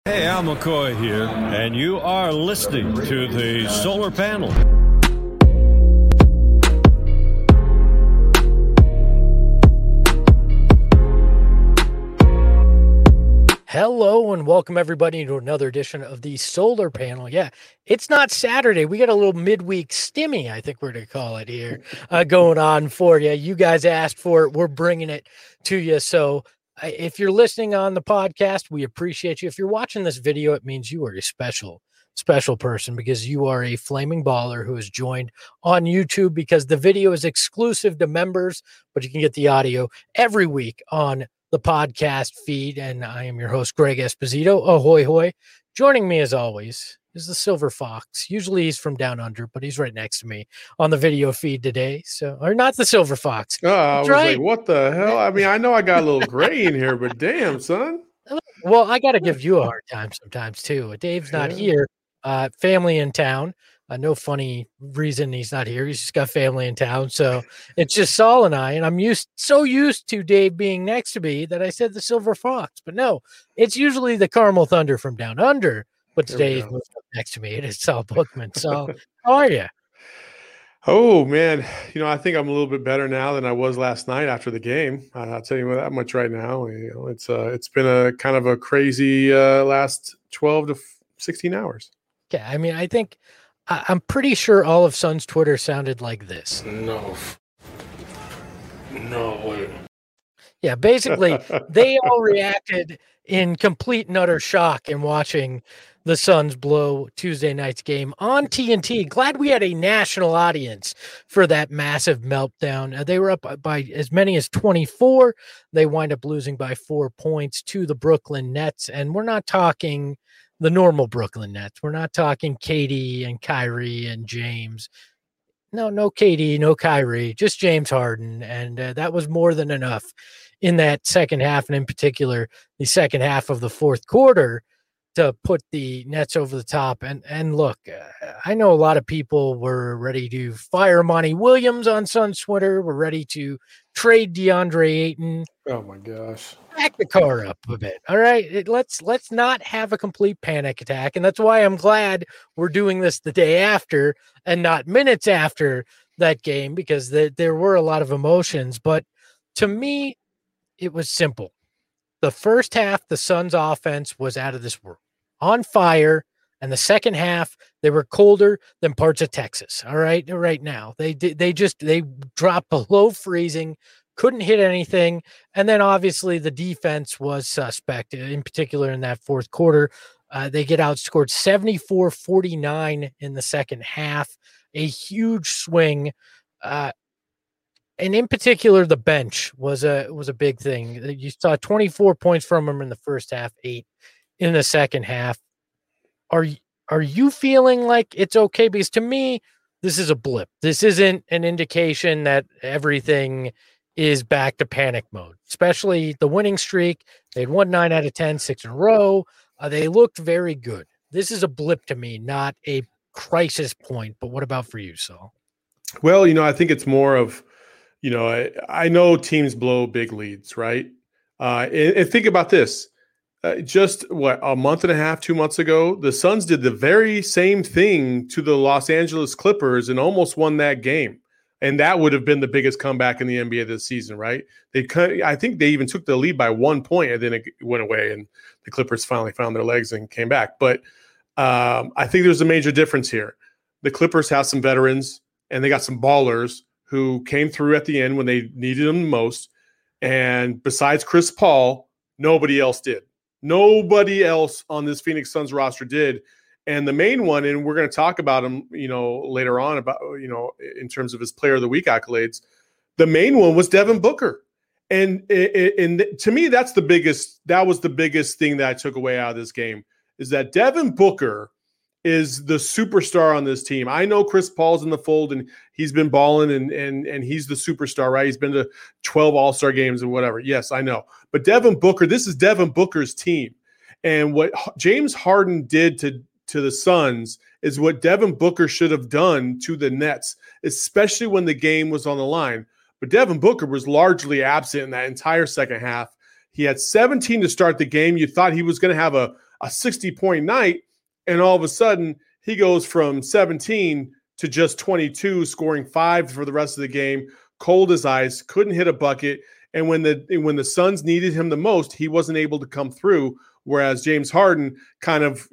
Hey, Al McCoy here, and you are listening to the Solar Panel. Hello and welcome everybody to another edition of the Solar Panel. Yeah, it's not Saturday. We got a little midweek stimmy, I think we're going to call it here, going on for you. You guys asked for it. We're bringing it to you. So if you're listening on the podcast, we appreciate you. If you're watching this video, it means you are a special person because you are a flaming baller who has joined on YouTube because the video is exclusive to members, but you can get the audio every week on the podcast feed. And I am your host, Greg Esposito. Ahoy, hoy. Joining me as always is the Silver Fox. Usually he's from down under, but he's right next to me on the video feed today. So, or not the Silver Fox. Oh, I was right. Like, what the hell? I mean, I know I got a little gray in here, but damn, son. Well, I got to give you a hard time sometimes too. Dave's not here. Family in town. No funny reason he's not here. He's just got family in town. So it's just Saul and I, and I'm so used to Dave being next to me that I said the Silver Fox, but no, it's usually the Carmel Thunder from down under, but today he's moved up next to me. It is Saul Bookman. So how are you? Oh man. I think I'm a little bit better now than I was last night after the game. I'll tell you that much right now. It's been a kind of a crazy last 12 to 16 hours. Yeah. I mean, I think I'm pretty sure all of Sun's Twitter sounded like this. No way. Yeah, basically, they all reacted in complete and utter shock in watching the Suns blow Tuesday night's game on TNT. Glad we had a national audience for that massive meltdown. They were up by as many as 24. They wind up losing by 4 points to the Brooklyn Nets, and we're not talking the normal Brooklyn Nets. We're not talking KD and Kyrie and James. No KD, no Kyrie, just James Harden. And that was more than enough in that second half, and in particular, the second half of the fourth quarter, to put the Nets over the top. And look, I know a lot of people were ready to fire Monty Williams on Suns Twitter. We're ready to trade DeAndre Ayton. Oh my gosh. Back the car up a bit. All right. Let's not have a complete panic attack. And that's why I'm glad we're doing this the day after and not minutes after that game, because there were a lot of emotions. But to me, it was simple. The first half, the Suns offense was out of this world, on fire. And the second half, they were colder than parts of Texas. All right. Right now, they dropped below freezing, couldn't hit anything. And then obviously the defense was suspect, in particular in that fourth quarter. They get outscored 74-49 in the second half, a huge swing. And in particular, the bench was a big thing. You saw 24 points from them in the first half, 8 in the second half. Are you feeling like it's okay? Because to me, this is a blip. This isn't an indication that everything is back to panic mode, especially the winning streak. They'd won 9 out of 10, 6 in a row. They looked very good. This is a blip to me, not a crisis point. But what about for you, Saul? Well, I think it's more of, I know teams blow big leads, right? And think about this. Just a month and a half, 2 months ago, the Suns did the very same thing to the Los Angeles Clippers and almost won that game. And that would have been the biggest comeback in the NBA this season, right? I think they even took the lead by 1 point, and then it went away, and the Clippers finally found their legs and came back. But I think there's a major difference here. The Clippers have some veterans, and they got some ballers who came through at the end when they needed them the most. And besides Chris Paul, nobody else did. Nobody else on this Phoenix Suns roster did. And the main one, and we're going to talk about him, later on about, in terms of his Player of the Week accolades, the main one was Devin Booker. And to me, that was the biggest thing that I took away out of this game, is that Devin Booker is the superstar on this team. I know Chris Paul's in the fold and he's been balling and he's the superstar, right? He's been to 12 All-Star games and whatever. Yes, I know. But Devin Booker, this is Devin Booker's team. And what James Harden did to the Suns is what Devin Booker should have done to the Nets, especially when the game was on the line. But Devin Booker was largely absent in that entire second half. He had 17 to start the game. You thought he was going to have a a 60-point night, and all of a sudden he goes from 17 to just 22, scoring 5 for the rest of the game, cold as ice, couldn't hit a bucket. And when the Suns needed him the most, he wasn't able to come through. Whereas James Harden kind of,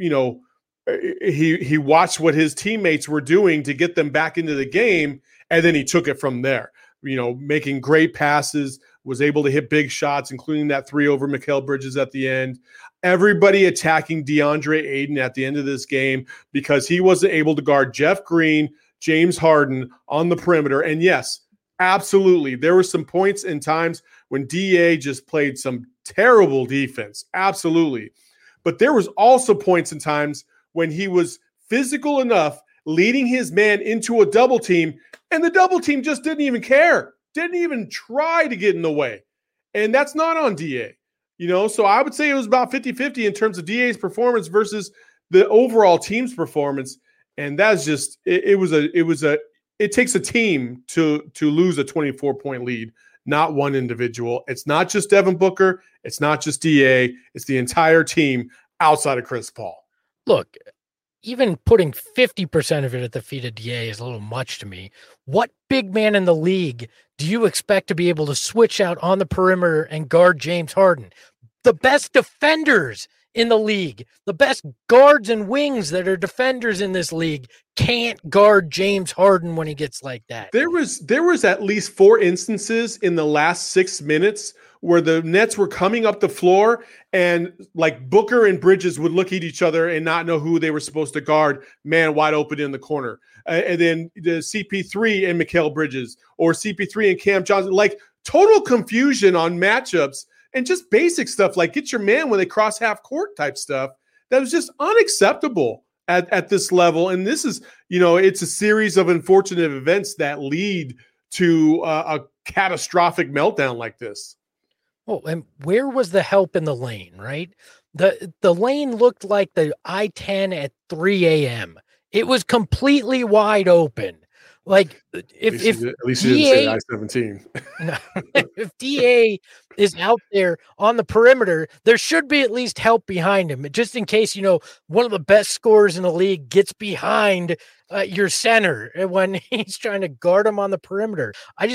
he watched what his teammates were doing to get them back into the game, and then he took it from there. Making great passes, was able to hit big shots, including that 3 over Mikal Bridges at the end. Everybody attacking DeAndre Ayton at the end of this game because he wasn't able to guard Jeff Green, James Harden on the perimeter. And yes, absolutely, there were some points and times when DA just played some terrible defense. Absolutely. But there was also points and times when he was physical enough, leading his man into a double team, and the double team just didn't even care, didn't even try to get in the way. And that's not on DA. So I would say it was about 50-50 in terms of DA's performance versus the overall team's performance. And that's just, it takes a team to lose a 24-point lead, not one individual. It's not just Devin Booker. It's not just DA. It's the entire team outside of Chris Paul. Look, even putting 50% of it at the feet of DA is a little much to me. What big man in the league do you expect to be able to switch out on the perimeter and guard James Harden? The best defenders in the league, the best guards and wings that are defenders in this league can't guard James Harden when he gets like that. There was at least 4 instances in the last 6 minutes where the Nets were coming up the floor and like Booker and Bridges would look at each other and not know who they were supposed to guard, man wide open in the corner. And then the CP3 and Mikal Bridges, or CP3 and Cam Johnson, like total confusion on matchups and just basic stuff like get your man when they cross half court type stuff. That was just unacceptable at this level. And this is, it's a series of unfortunate events that lead to a catastrophic meltdown like this. Oh, and where was the help in the lane, right? The lane looked like the I-10 at 3 a.m. It was completely wide open. Like if at least you didn't say I-17. If DA is out there on the perimeter, there should be at least help behind him, just in case one of the best scorers in the league gets behind your center when he's trying to guard him on the perimeter.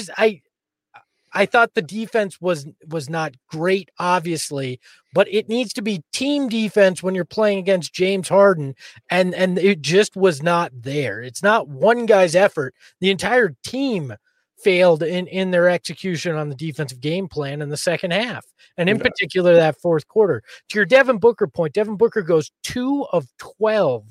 I thought the defense was not great, obviously, but it needs to be team defense when you're playing against James Harden, and it just was not there. It's not one guy's effort. The entire team failed in their execution on the defensive game plan in the second half, and in particular that fourth quarter. To your Devin Booker point, Devin Booker goes 3 of 12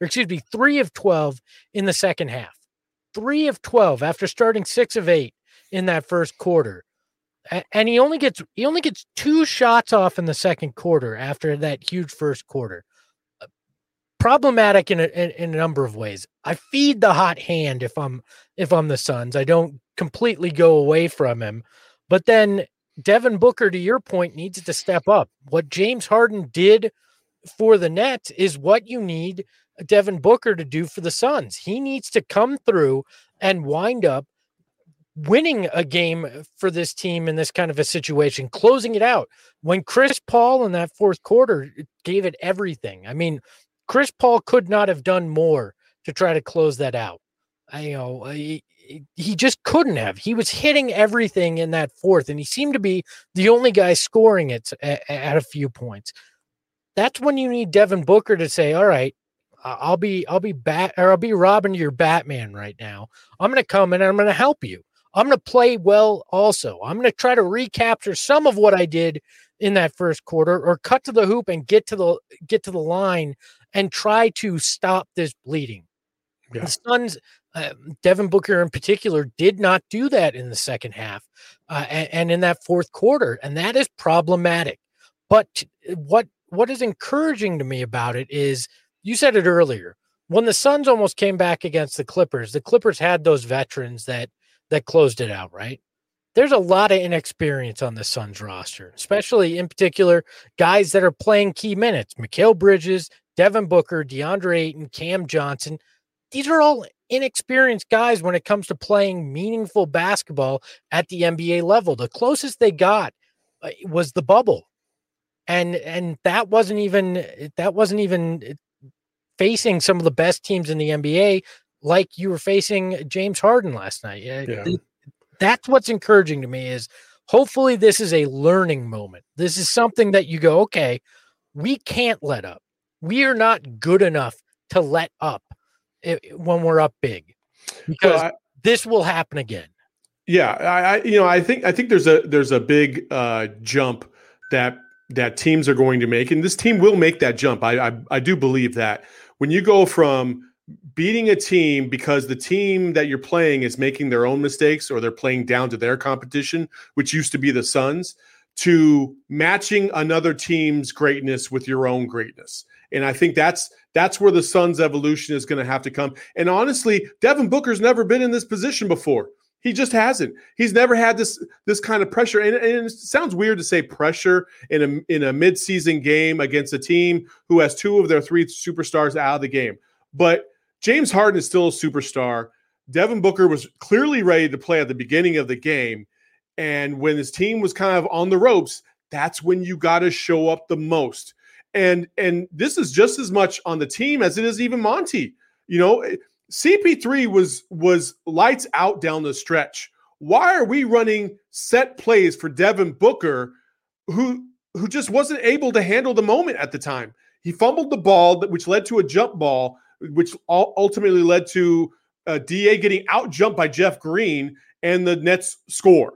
in the second half. 3 of 12 after starting 6 of 8. In that first quarter, and he only gets 2 shots off in the second quarter after that huge first quarter. Problematic in a number of ways. I feed the hot hand if I'm the Suns. I don't completely go away from him, but then Devin Booker, to your point, needs to step up. What James Harden did for the Nets is what you need Devin Booker to do for the Suns. He needs to come through and wind up winning a game for this team in this kind of a situation, closing it out. When Chris Paul in that fourth quarter gave it everything. I mean, Chris Paul could not have done more to try to close that out. He just couldn't have. He was hitting everything in that fourth, and he seemed to be the only guy scoring it at a few points. That's when you need Devin Booker to say, all right, I'll be Robin to your Batman right now. I'm going to come in and I'm going to help you. I'm going to play well also. I'm going to try to recapture some of what I did in that first quarter, or cut to the hoop and get to the line and try to stop this bleeding. Yeah. The Suns, Devin Booker in particular, did not do that in the second half and in that fourth quarter, and that is problematic. But what is encouraging to me about it is, you said it earlier, when the Suns almost came back against the Clippers had those veterans that closed it out, right? There's a lot of inexperience on the Suns roster, especially in particular guys that are playing key minutes. Mikal Bridges, Devin Booker, DeAndre Ayton, Cam Johnson. These are all inexperienced guys when it comes to playing meaningful basketball at the NBA level. The closest they got was the bubble. And that wasn't even facing some of the best teams in the NBA, like you were facing James Harden last night. Yeah. That's what's encouraging to me is hopefully this is a learning moment. This is something that you go, okay, we can't let up. We are not good enough to let up when we're up big, because this will happen again. Yeah, I think there's a big jump that teams are going to make, and this team will make that jump. I do believe that when you go from beating a team because the team that you're playing is making their own mistakes or they're playing down to their competition, which used to be the Suns, to matching another team's greatness with your own greatness. And I think that's where the Suns' evolution is going to have to come. And honestly, Devin Booker's never been in this position before. He just hasn't. He's never had this kind of pressure. And it sounds weird to say pressure in a midseason game against a team who has two of their three superstars out of the game. But James Harden is still a superstar. Devin Booker was clearly ready to play at the beginning of the game. And when his team was kind of on the ropes, that's when you got to show up the most. And this is just as much on the team as it is even Monty. You know, CP3 was lights out down the stretch. Why are we running set plays for Devin Booker, who just wasn't able to handle the moment at the time? He fumbled the ball, which led to a jump ball, which ultimately led to DA getting out jumped by Jeff Green, and the Nets score.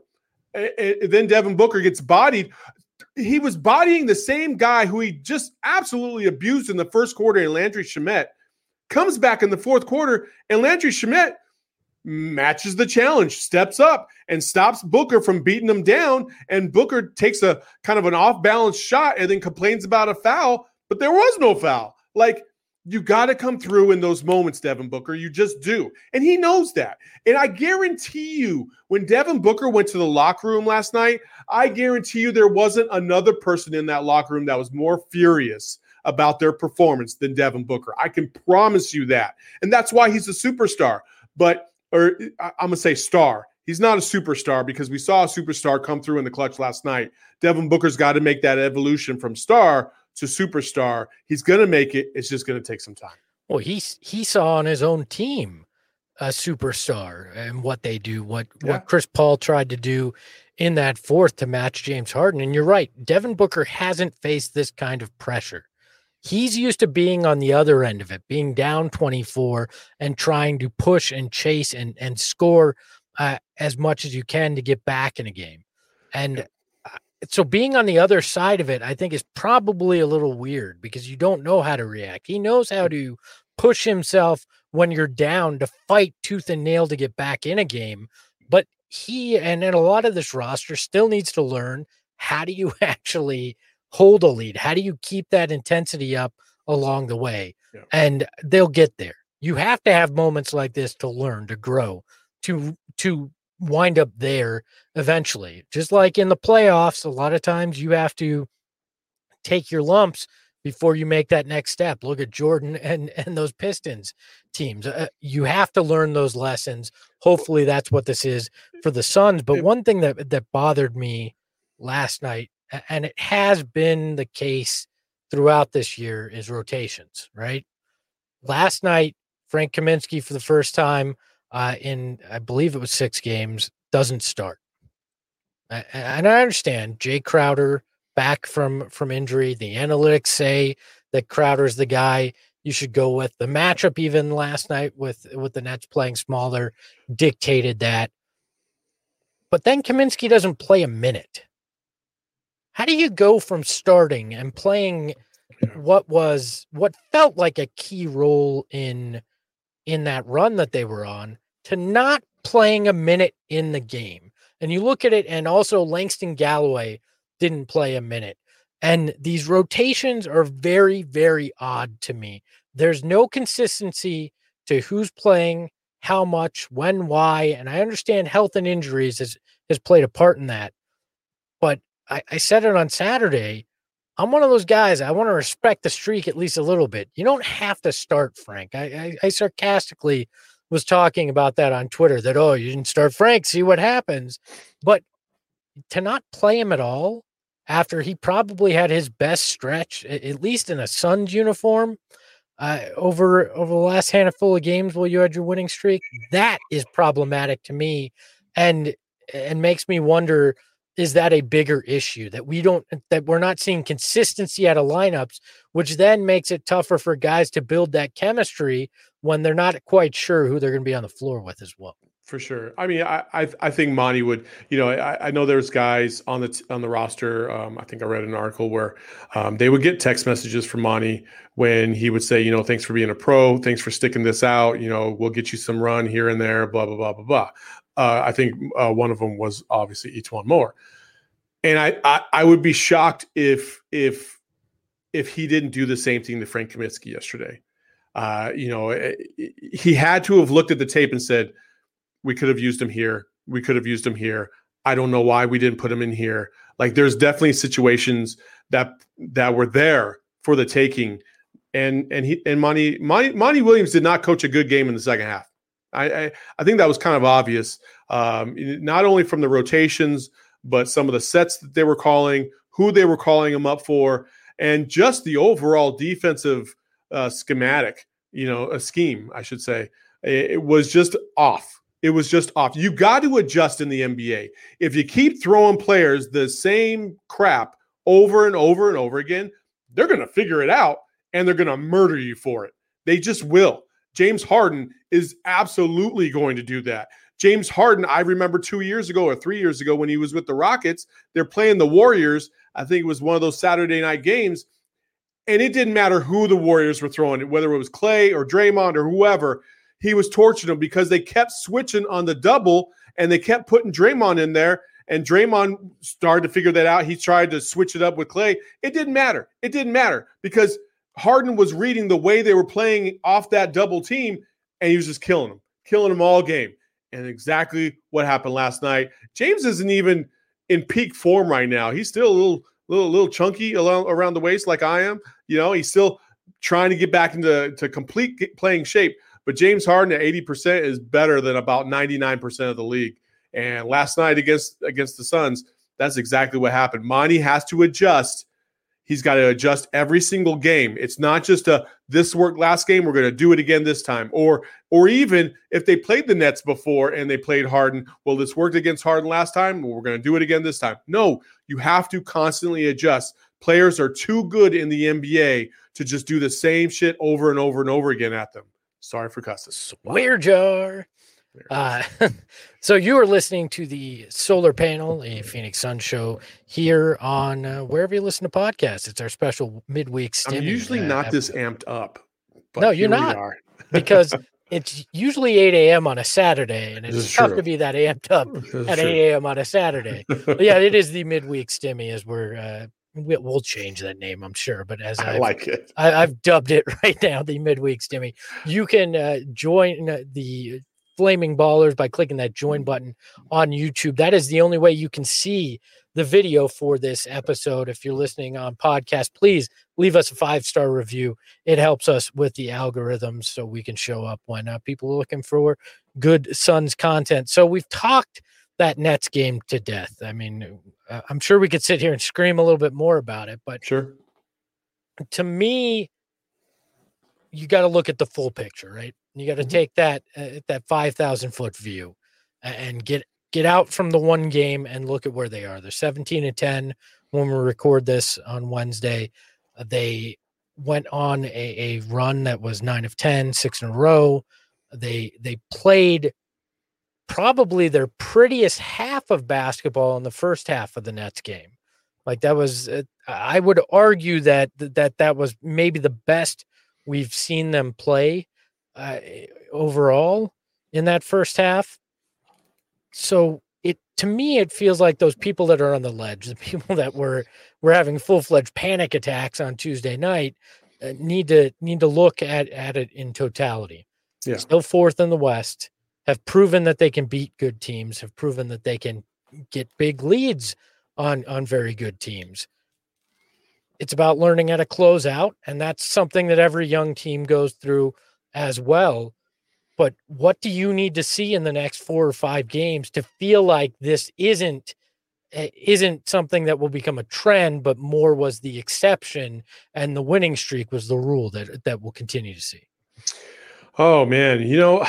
Then Devin Booker gets bodied. He was bodying the same guy who he just absolutely abused in the first quarter, and Landry Shamet comes back in the fourth quarter, and Landry Shamet matches the challenge, steps up, and stops Booker from beating him down. And Booker takes a kind of an off-balance shot and then complains about a foul, but there was no foul. Like, you got to come through in those moments, Devin Booker. You just do. And he knows that. And I guarantee you, when Devin Booker went to the locker room last night, I guarantee you there wasn't another person in that locker room that was more furious about their performance than Devin Booker. I can promise you that. And that's why he's a superstar. I'm going to say star. He's not a superstar because we saw a superstar come through in the clutch last night. Devin Booker's got to make that evolution from star to superstar. He's going to make it. It's just going to take some time. Well, he saw on his own team a superstar and what they do, what Chris Paul tried to do in that fourth to match James Harden. And you're right. Devin Booker hasn't faced this kind of pressure. He's used to being on the other end of it, being down 24 and trying to push and chase and score as much as you can to get back in a game. And so being on the other side of it, I think, is probably a little weird because you don't know how to react. He knows how to push himself when you're down to fight tooth and nail to get back in a game. But he and a lot of this roster still needs to learn, how do you actually hold a lead? How do you keep that intensity up along the way? Yeah. And they'll get there. You have to have moments like this to learn, to grow, to wind up there eventually. Just like in the playoffs, a lot of times you have to take your lumps before you make that next step. Look at Jordan and those Pistons teams. You have to learn those lessons. Hopefully that's what this is for the Suns. But one thing that bothered me last night, and it has been the case throughout this year, is rotations, right? Last night, Frank Kaminsky, for the first time in, I believe it was 6 games, doesn't start. And I understand Jay Crowder back from injury. The analytics say that Crowder's the guy you should go with. The matchup even last night with the Nets playing smaller dictated that. But then Kaminsky doesn't play a minute. How do you go from starting and playing what felt like a key role in that run that they were on to not playing a minute in the game? And you look at it, and also Langston Galloway didn't play a minute. And these rotations are very, very odd to me. There's no consistency to who's playing, how much, when, why. And I understand health and injuries has played a part in that. But I said it on Saturday. I'm one of those guys. I want to respect the streak at least a little bit. You don't have to start Frank. I sarcastically was talking about that on Twitter, that, oh, you didn't start Frank, see what happens. But to not play him at all after he probably had his best stretch, at least in a Suns uniform, over the last handful of games while you had your winning streak. That is problematic to me, and makes me wonder, is that a bigger issue that we're not seeing consistency out of lineups, which then makes it tougher for guys to build that chemistry when they're not quite sure who they're going to be on the floor with as well. For sure. I mean, I think Monty would, I know there's guys on the roster. I think I read an article where they would get text messages from Monty when he would say, thanks for being a pro. Thanks for sticking this out. We'll get you some run here and there, blah, blah, blah, blah, blah. I think one of them was obviously E'Twaun Moore. And I would be shocked if he didn't do the same thing to Frank Kaminsky yesterday. He had to have looked at the tape and said, we could have used him here. We could have used him here. I don't know why we didn't put him in here. Like, there's definitely situations that were there for the taking. And Monty Williams did not coach a good game in the second half. I think that was kind of obvious, not only from the rotations, but some of the sets that they were calling, who they were calling him up for, and just the overall defensive schematic, a scheme, I should say. It was just off. It was just off. You got to adjust in the NBA. If you keep throwing players the same crap over and over and over again, they're going to figure it out and they're going to murder you for it. They just will. James Harden is absolutely going to do that. James Harden, I remember 2 years ago or 3 years ago when he was with the Rockets, they're playing the Warriors. I think it was one of those Saturday night games. And it didn't matter who the Warriors were throwing, whether it was Clay or Draymond or whoever. He was torching them because they kept switching on the double and they kept putting Draymond in there. And Draymond started to figure that out. He tried to switch it up with Clay. It didn't matter. It didn't matter because Harden was reading the way they were playing off that double team, and he was just killing them all game. And exactly what happened last night. James isn't even in peak form right now. He's still a little chunky around the waist like I am. He's still trying to get back into complete playing shape. But James Harden at 80% is better than about 99% of the league. And last night against the Suns, that's exactly what happened. Monty has to adjust. He's got to adjust every single game. It's not just this worked last game, we're going to do it again this time. Or even if they played the Nets before and they played Harden, well, this worked against Harden last time, well, we're going to do it again this time. No, you have to constantly adjust. Players are too good in the NBA to just do the same shit over and over and over again at them. Sorry for cussing. Swear jar. So you are listening to the Solar Panel, a Phoenix Sun show here on wherever you listen to podcasts. It's our special midweek stimmy. I'm usually not this amped up. But no, you're not. Because it's usually 8 a.m. on a Saturday, and it's tough to be that amped up at 8 a.m. on a Saturday. But yeah, it is the midweek stimmy as we'll change that name, I'm sure. But as I like it, I've dubbed it right now, the midweek stimmy. You can join the Flaming Ballers by clicking that join button on YouTube. That is the only way you can see the video for this episode. If you're listening on podcast, please leave us a 5-star review. It helps us with the algorithms so we can show up when people are looking for good Suns content. So we've talked that Nets game to death. I mean, I'm sure we could sit here and scream a little bit more about it, but sure. To me, you got to look at the full picture, right? You got to take that 5,000 foot view and get out from the one game and look at where they are. They're 17-10 when we record this on Wednesday. They went on a run that was 9 of 10, 6 in a row. They played probably their prettiest half of basketball in the first half of the Nets game. Like that was, I would argue that was maybe the best we've seen them play overall in that first half. So to me, it feels like those people that are on the ledge, the people that were having full-fledged panic attacks on Tuesday night, need to look at it in totality. Yeah. Still fourth in the West, have proven that they can beat good teams, have proven that they can get big leads on very good teams. It's about learning how to close out, and that's something that every young team goes through as well. But what do you need to see in the next 4 or 5 games to feel like this isn't isn't something that will become a trend, but more was the exception, and the winning streak was the rule that we'll continue to see. Oh man,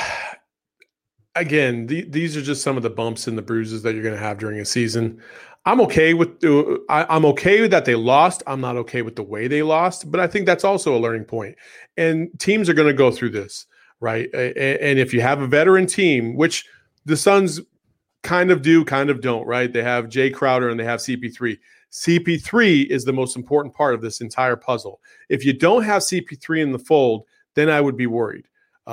again, these are just some of the bumps and the bruises that you're going to have during a season. I'm okay with I'm okay with that they lost. I'm not okay with the way they lost, but I think that's also a learning point. And teams are going to go through this, right? And if you have a veteran team, which the Suns kind of do, kind of don't, right? They have Jay Crowder and they have CP3. CP3 is the most important part of this entire puzzle. If you don't have CP3 in the fold, then I would be worried.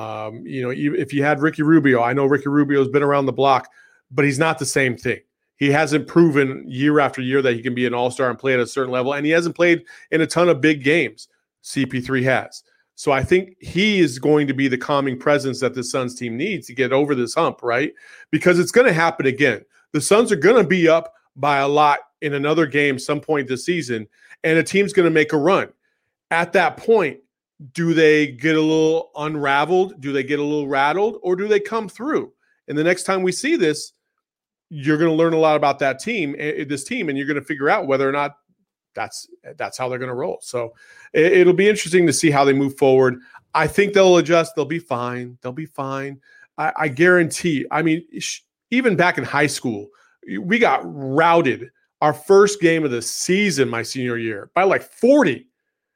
If you had Ricky Rubio, I know Ricky Rubio's been around the block, but he's not the same thing. He hasn't proven year after year that he can be an all-star and play at a certain level, and he hasn't played in a ton of big games. CP3 has. So I think he is going to be the calming presence that the Suns team needs to get over this hump, right? Because it's going to happen again. The Suns are going to be up by a lot in another game some point this season, and a team's going to make a run. At that point, do they get a little unraveled? Do they get a little rattled? Or do they come through? And the next time we see this, you're going to learn a lot about that team, this team, and you're going to figure out whether or not that's how they're going to roll. So it'll be interesting to see how they move forward. I think they'll adjust. They'll be fine. They'll be fine. I guarantee. I mean, even back in high school, we got routed our first game of the season my senior year by like 40.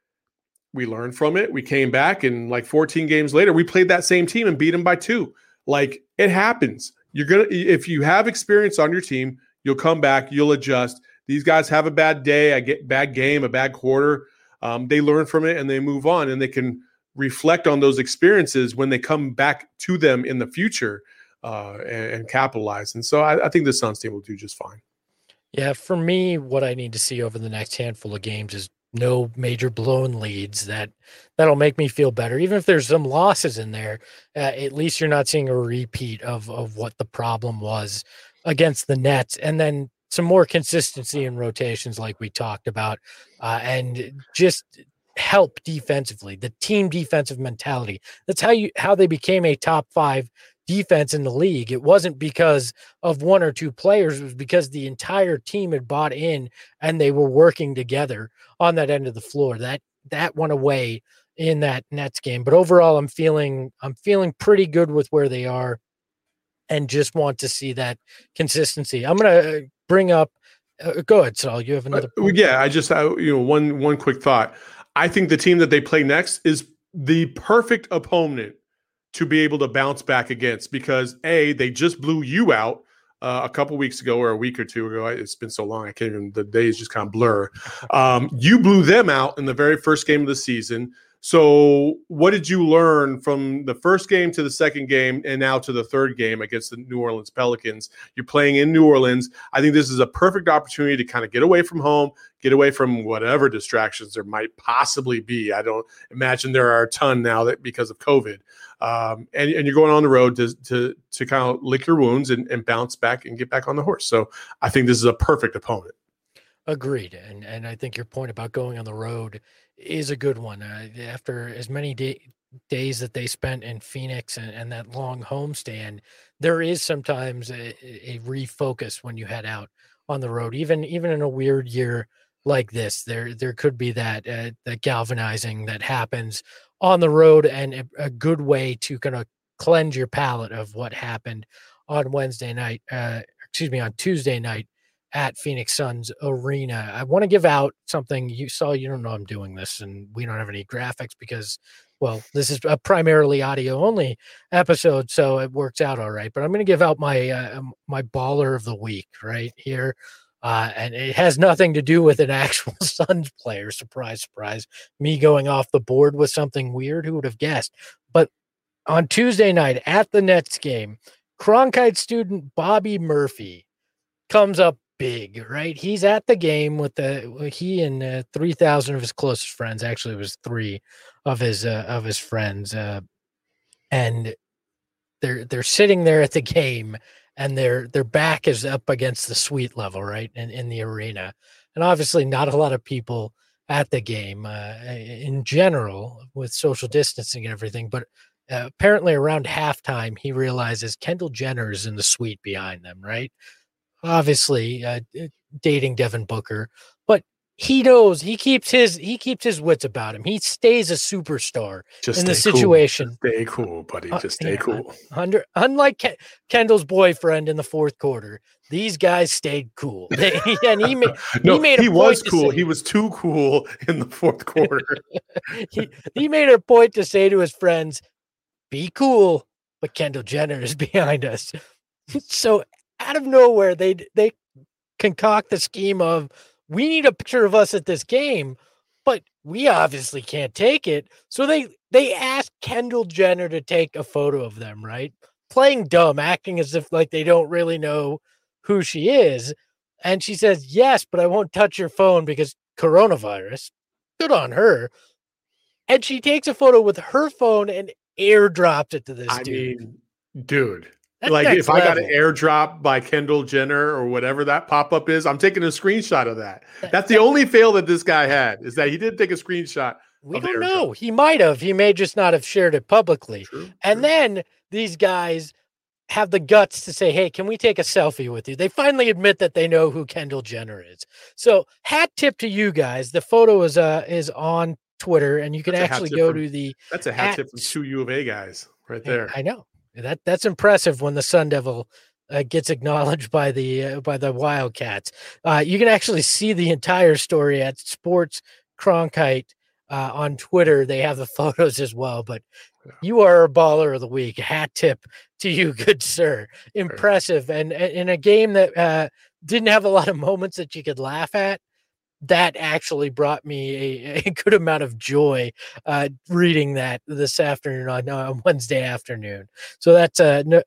We learned from it. We came back, and like 14 games later, we played that same team and beat them by 2. Like, it happens. If you have experience on your team, you'll come back, you'll adjust. These guys have a bad day, a bad game, a bad quarter. They learn from it and they move on, and they can reflect on those experiences when they come back to them in the future and capitalize. And so I think the Suns team will do just fine. Yeah, for me, what I need to see over the next handful of games is no major blown leads. That'll make me feel better. Even if there's some losses in there, at least you're not seeing a repeat of what the problem was against the Nets. And then some more consistency in rotations like we talked about, and just help defensively, the team defensive mentality. That's how they became a top 5 defense in the league. It wasn't because of one or two players. It was because the entire team had bought in and they were working together on that end of the floor. That went away in that Nets game. But overall, I'm feeling pretty good with where they are, and just want to see that consistency. I'm going to bring up go ahead, Saul. You have another point? Yeah, I just one quick thought. I think the team that they play next is the perfect opponent to be able to bounce back against, because they just blew you out a couple weeks ago or a week or two ago. It's been so long, I can't even, the days just kind of blur. You blew them out in the very first game of the season. So what did you learn from the first game to the second game and now to the third game against the New Orleans Pelicans? You're playing in New Orleans. I think this is a perfect opportunity to kind of get away from home, get away from whatever distractions there might possibly be. I don't imagine there are a ton now that because of COVID. And you're going on the road to kind of lick your wounds and bounce back and get back on the horse. So I think this is a perfect opponent. Agreed. And I think your point about going on the road is a good one. After as many days that they spent in Phoenix and that long homestand, there is sometimes a refocus when you head out on the road. Even in a weird year like this, there could be that galvanizing that happens on the road, and a good way to kind of cleanse your palate of what happened on Tuesday night at Phoenix Suns Arena. I want to give out something. You don't know I'm doing this, and we don't have any graphics because, well, this is a primarily audio only episode, so it works out all right. But I'm going to give out my my baller of the week right here. And it has nothing to do with an actual Suns player. Surprise, surprise. Me going off the board with something weird. Who would have guessed? But on Tuesday night at the Nets game, Cronkite student Bobby Murphy comes up big, right? He's at the game with he and 3,000 of his closest friends. Actually, it was 3 of his friends, and they're sitting there at the game, and their back is up against the suite level, right, in the arena. And obviously not a lot of people at the game in general with social distancing and everything. But apparently around halftime, he realizes Kendall Jenner is in the suite behind them, right? obviously dating Devin Booker, but he knows he keeps his wits about him. He stays a superstar in the situation. Cool. Stay cool, buddy. Just stay cool. Unlike Kendall's boyfriend in the fourth quarter, these guys stayed cool. He was cool. He was too cool in the fourth quarter. he made a point to say to his friends, "Be cool," but Kendall Jenner is behind us. So out of nowhere, they concoct the scheme of, we need a picture of us at this game, but we obviously can't take it. So they asked Kendall Jenner to take a photo of them, right? Playing dumb, acting as if like they don't really know who she is. And she says, yes, but I won't touch your phone because coronavirus. Good on her. And she takes a photo with her phone and airdrops it to this dude. Mean, dude. That's like if level. I got an airdrop by Kendall Jenner or whatever that pop-up is, I'm taking a screenshot of that. That's the only fail that this guy had, is that he did take a screenshot. We don't know. He might have. He may just not have shared it publicly. True. Then these guys have the guts to say, hey, can we take a selfie with you? They finally admit that they know who Kendall Jenner is. So hat tip to you guys. The photo is on Twitter, and you can actually go to the... That's a hat tip from 2 U of A guys right there. I know. That's impressive when the Sun Devil gets acknowledged by the Wildcats. You can actually see the entire story at Sports Cronkite on Twitter. They have the photos as well. But you are a baller of the week. Hat tip to you, good sir. Impressive. And in a game that didn't have a lot of moments that you could laugh at, that actually brought me a good amount of joy reading that this afternoon on Wednesday afternoon. So that's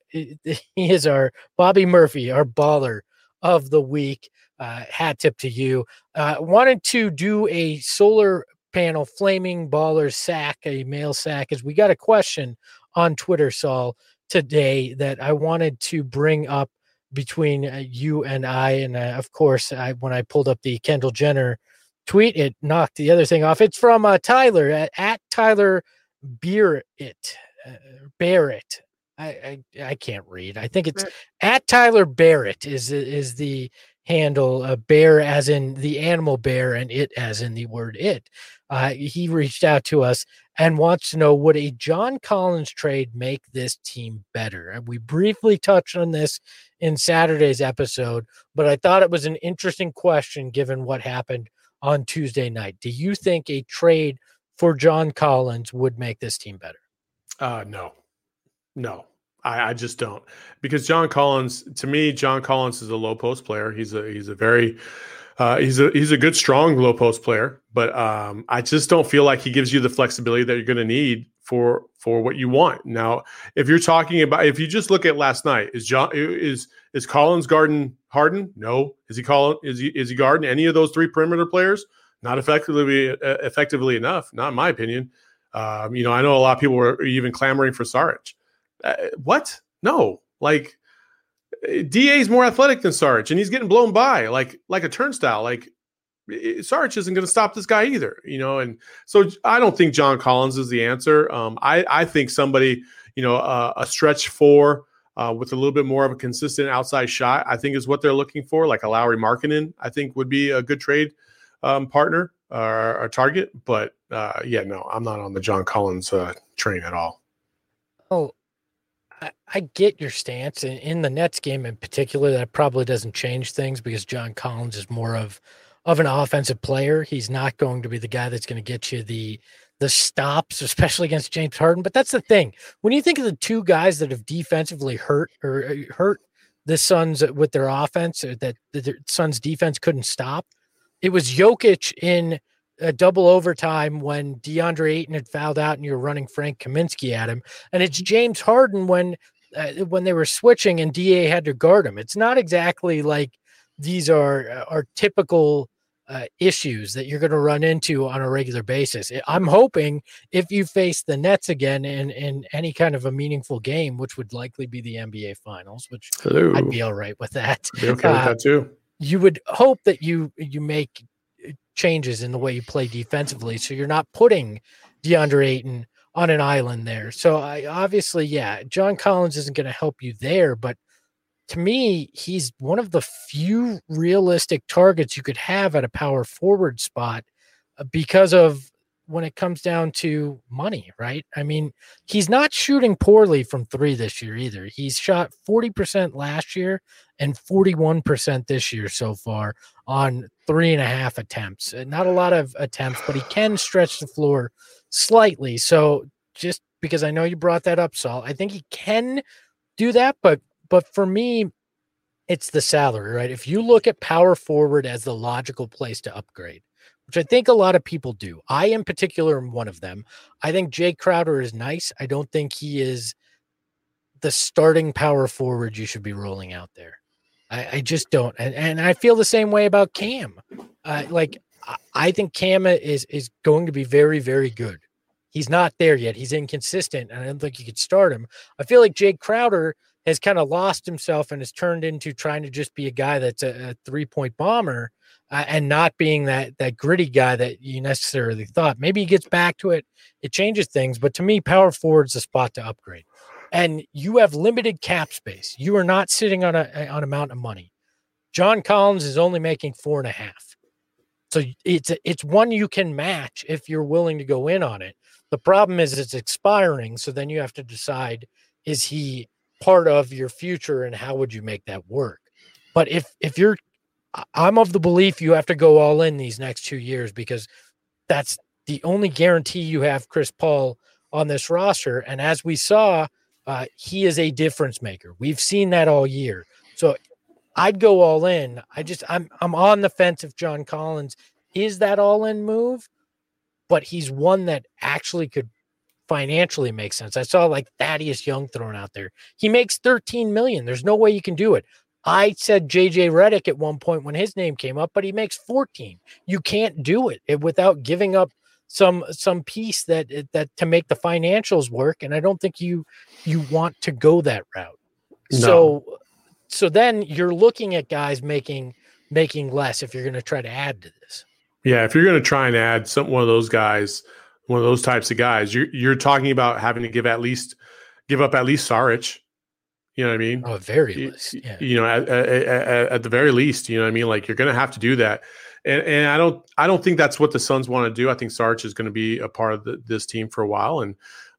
he is our Bobby Murphy, our baller of the week. Hat tip to you. Wanted to do a solar panel flaming baller sack, a male sack, as we got a question on Twitter, Saul, today that I wanted to bring up between you and I. And of course, when I pulled up the Kendall Jenner tweet, it knocked the other thing off. It's from Tyler at Tyler Barrett. I can't read. I think it's at Tyler Barrett is the handle. Bear as in the animal bear, and it as in the word it. He reached out to us and wants to know, would a John Collins trade make this team better? And we briefly touched on this in Saturday's episode, but I thought it was an interesting question given what happened on Tuesday night. Do you think a trade for John Collins would make this team better? No, I just don't, because John Collins, to me, John Collins is a low post player. He's a very he's a good, strong low post player, but I just don't feel like he gives you the flexibility that you're going to need for what you want. Now, if you're talking about, if you just look at last night, is Collins guarding Harden? No. Is he guarding any of those three perimeter players? Not effectively enough, not in my opinion. I know a lot of people were even clamoring for Saric. What? No, like DA is more athletic than Saric, and he's getting blown by like a turnstile. Like Saric isn't going to stop this guy either, and so I don't think John Collins is the answer. I think somebody, a stretch four with a little bit more of a consistent outside shot, I think is what they're looking for. Like a Lauri Markkanen, I think would be a good trade partner or target. But no, I'm not on the John Collins train at all. Oh, I get your stance. In the Nets game in particular, that probably doesn't change things because John Collins is more of an offensive player. He's not going to be the guy that's going to get you the stops, especially against James Harden. But that's the thing. When you think of the two guys that have defensively hurt the Suns with their offense, that the Suns defense couldn't stop, it was Jokic in a double overtime when DeAndre Ayton had fouled out and you were running Frank Kaminsky at him. And it's James Harden when they were switching and DA had to guard him. It's not exactly like these are typical issues that you're going to run into on a regular basis. I'm hoping if you face the Nets again in any kind of a meaningful game, which would likely be the NBA Finals, which I'd be all right with that. I'd be okay with that too. You would hope that you make changes in the way you play defensively, so you're not putting DeAndre Ayton on an island there. So obviously, John Collins isn't going to help you there, but to me, he's one of the few realistic targets you could have at a power forward spot because of when it comes down to money, right? I mean, he's not shooting poorly from three this year either. He's shot 40% last year and 41% this year so far on 3.5 attempts. Not a lot of attempts, but he can stretch the floor slightly. So just because I know you brought that up, Saul, I think he can do that, but for me, it's the salary, right? If you look at power forward as the logical place to upgrade, which I think a lot of people do. I, in particular, am one of them. I think Jay Crowder is nice. I don't think he is the starting power forward you should be rolling out there. I just don't. And I feel the same way about Cam. I think Cam is going to be very, very good. He's not there yet. He's inconsistent, and I don't think you could start him. I feel like Jay Crowder has kind of lost himself and has turned into trying to just be a guy that's a 3-point bomber and not being that gritty guy that you necessarily thought. Maybe he gets back to it. It changes things. But to me, power forward's the spot to upgrade. And you have limited cap space. You are not sitting on a mountain of money. John Collins is only making 4.5. So it's one you can match if you're willing to go in on it. The problem is it's expiring. So then you have to decide, is he part of your future and how would you make that work? But I'm of the belief you have to go all in these next 2 years because that's the only guarantee you have Chris Paul on this roster. And as we saw, he is a difference maker. We've seen that all year. So I'd go all in. I'm on the fence if John Collins is that all in move, but he's one that actually could financially make sense. I saw like Thaddeus Young thrown out there. He makes $13 million. There's no way you can do it. I said JJ Redick at one point when his name came up, but he makes 14. You can't do it without giving up some piece that to make the financials work. And I don't think you want to go that route. No. So then you're looking at guys making less if you're going to try to add to this. Yeah, if you're going to try and add one of those guys, one of those types of guys, you're talking about having to give up at least Saric. You know what I mean? Oh, very least. Yeah. You know, at the very least, you know what I mean? Like you're going to have to do that. And I don't think that's what the Suns want to do. I think Saric is going to be a part of this team for a while. And,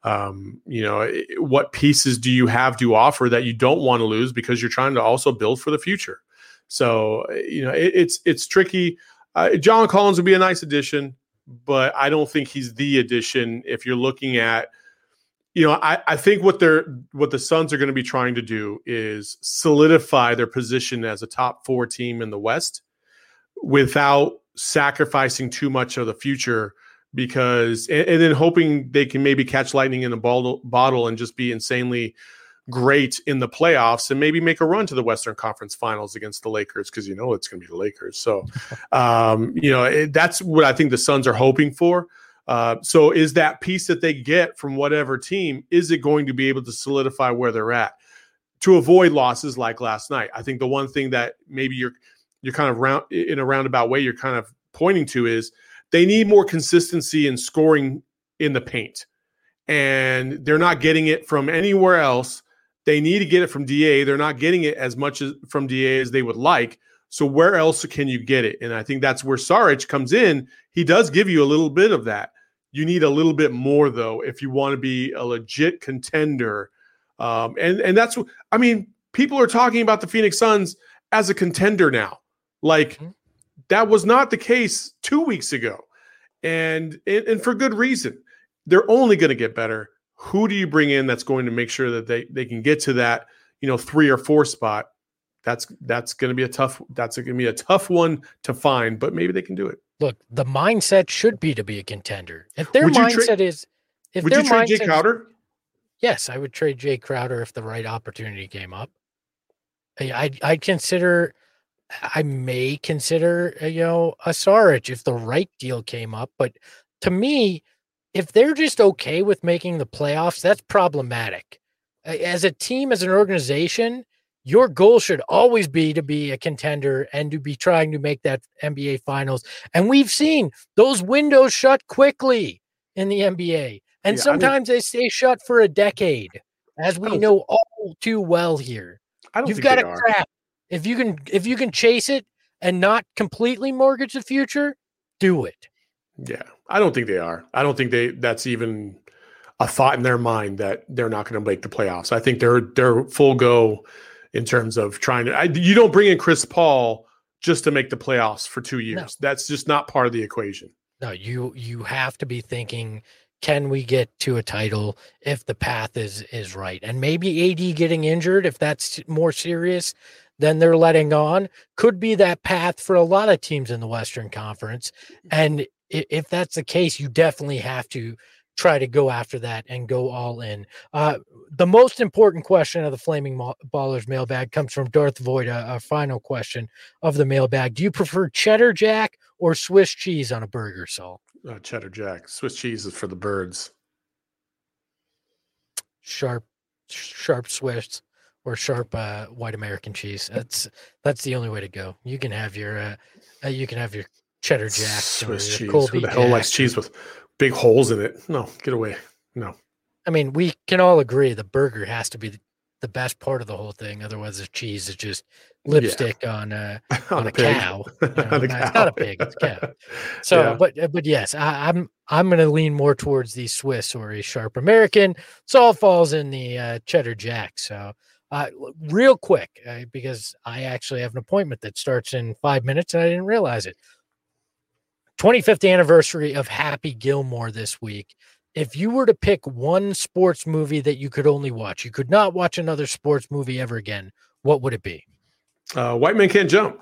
you know, what pieces do you have to offer that you don't want to lose because you're trying to also build for the future? So, you know, it's tricky. John Collins would be a nice addition, but I don't think he's the addition if you're looking at, you know, I think what the Suns are going to be trying to do is solidify their position as a top 4 team in the West without sacrificing too much of the future because and then hoping they can maybe catch lightning in a bottle and just be insanely great in the playoffs and maybe make a run to the Western Conference Finals against the Lakers because you know it's going to be the Lakers. So, you know, that's what I think the Suns are hoping for. So is that piece that they get from whatever team, is it going to be able to solidify where they're at to avoid losses like last night? I think the one thing that maybe you're kind of in a roundabout way you're kind of pointing to is they need more consistency in scoring in the paint. And they're not getting it from anywhere else. They need to get it from DA. They're not getting it as much from DA as they would like. So where else can you get it? And I think that's where Saric comes in. He does give you a little bit of that. You need a little bit more, though, if you want to be a legit contender. And that's what – I mean, people are talking about the Phoenix Suns as a contender now. Like, that was not the case 2 weeks ago. And for good reason. They're only going to get better. Who do you bring in that's going to make sure that they can get to that, you know, 3 or 4 spot? That's going to be a tough one to find, but maybe they can do it. Look, the mindset should be to be a contender. If their mindset is, if would their you trade Jay Crowder? Yes, I would trade Jay Crowder if the right opportunity came up. I'd consider. I may consider, you know, a Saric if the right deal came up, but to me, if they're just okay with making the playoffs, that's problematic. As a team, as an organization, your goal should always be to be a contender and to be trying to make that NBA Finals. And we've seen those windows shut quickly in the NBA. And sometimes they stay shut for a decade, as we know all too well here. I don't You've think got they to are. craft. If you can chase it and not completely mortgage the future, do it. Yeah, I don't think they are. I don't think that's even a thought in their mind that they're not going to make the playoffs. I think they're full go in terms of trying to. You don't bring in Chris Paul just to make the playoffs for 2 years. No. That's just not part of the equation. No, you have to be thinking, can we get to a title if the path is right? And maybe AD getting injured, if that's more serious than they're letting on, could be that path for a lot of teams in the Western Conference. And if that's the case, you definitely have to try to go after that and go all in. The most important question of the Flaming Ballers mailbag comes from Darth Voida, a final question of the mailbag. Do you prefer cheddar jack or Swiss cheese on a burger, Saul? Cheddar jack. Swiss cheese is for the birds. Sharp Swiss or sharp white American cheese. That's the only way to go. You can have your cheddar jack, Swiss cheese. Colby Who the hell likes cheese with big holes in it? No, get away. No. I mean, we can all agree the burger has to be the best part of the whole thing. Otherwise, the cheese is just lipstick on a cow. It's not a pig; it's a cow. So, but yes, I'm going to lean more towards the Swiss or a sharp American. So all falls in the cheddar jack. So, real quick, because I actually have an appointment that starts in 5 minutes, and I didn't realize it. 25th anniversary of Happy Gilmore this week. If you were to pick one sports movie that you could only watch, you could not watch another sports movie ever again, what would it be? White Man Can't Jump.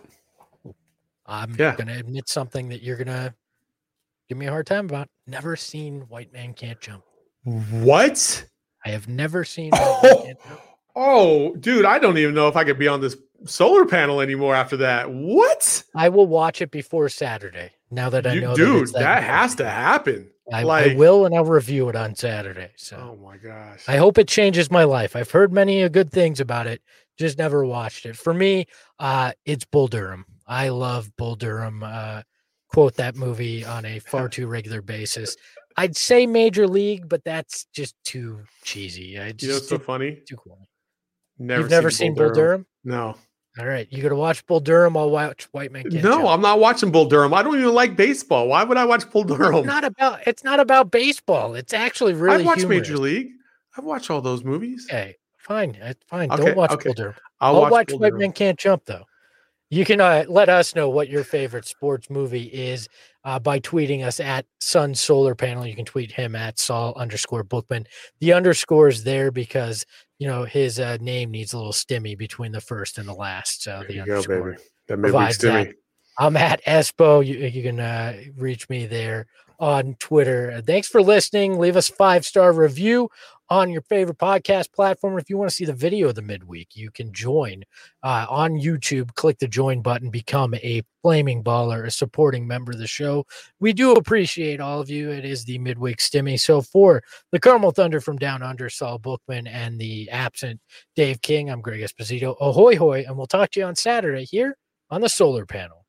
I'm going to admit something that you're going to give me a hard time about. Never seen White Man Can't Jump. What? I have never seen White Man Can't Jump. Oh, dude, I don't even know if I could be on this solar panel anymore after that. What? I will watch it before Saturday. Now that I know, dude, that has to happen. I will, and I'll review it on Saturday. So, oh my gosh, I hope it changes my life. I've heard many good things about it, just never watched it. For me, it's Bull Durham. I love Bull Durham. Quote that movie on a far too regular basis. I'd say Major League, but that's just too cheesy. You know what's so funny? Too cool. You've never seen Bull Durham? No. All right, you got to watch Bull Durham. I'll watch White Man Can't Jump. I'm not watching Bull Durham. I don't even like baseball. Why would I watch Bull Durham? It's not about baseball. It's actually really. I've watched humorous. Major League. I've watched all those movies. Okay, fine. Okay, don't watch Bull Durham. I'll watch White Man Can't Jump though. You can let us know what your favorite sports movie is by tweeting us at Sun Solar Panel. You can tweet him at Saul_Bookman. The underscore is there because his name needs a little stimmy between the first and the last. So there the underscore baby. That midweek stimmy. That. I'm at Espo. You can reach me there on Twitter. Thanks for listening. Leave us a 5-star review on your favorite podcast platform. If you want to see the video of the midweek, you can join on YouTube. Click the join button, become a Flaming Baller, a supporting member of the show. We do appreciate all of you. It is the midweek stimmy. So for the Carmel Thunder from Down Under, Saul Bookman, and the absent Dave King, I'm Greg Esposito. Ahoy, hoy, and we'll talk to you on Saturday here on the Solar Panel.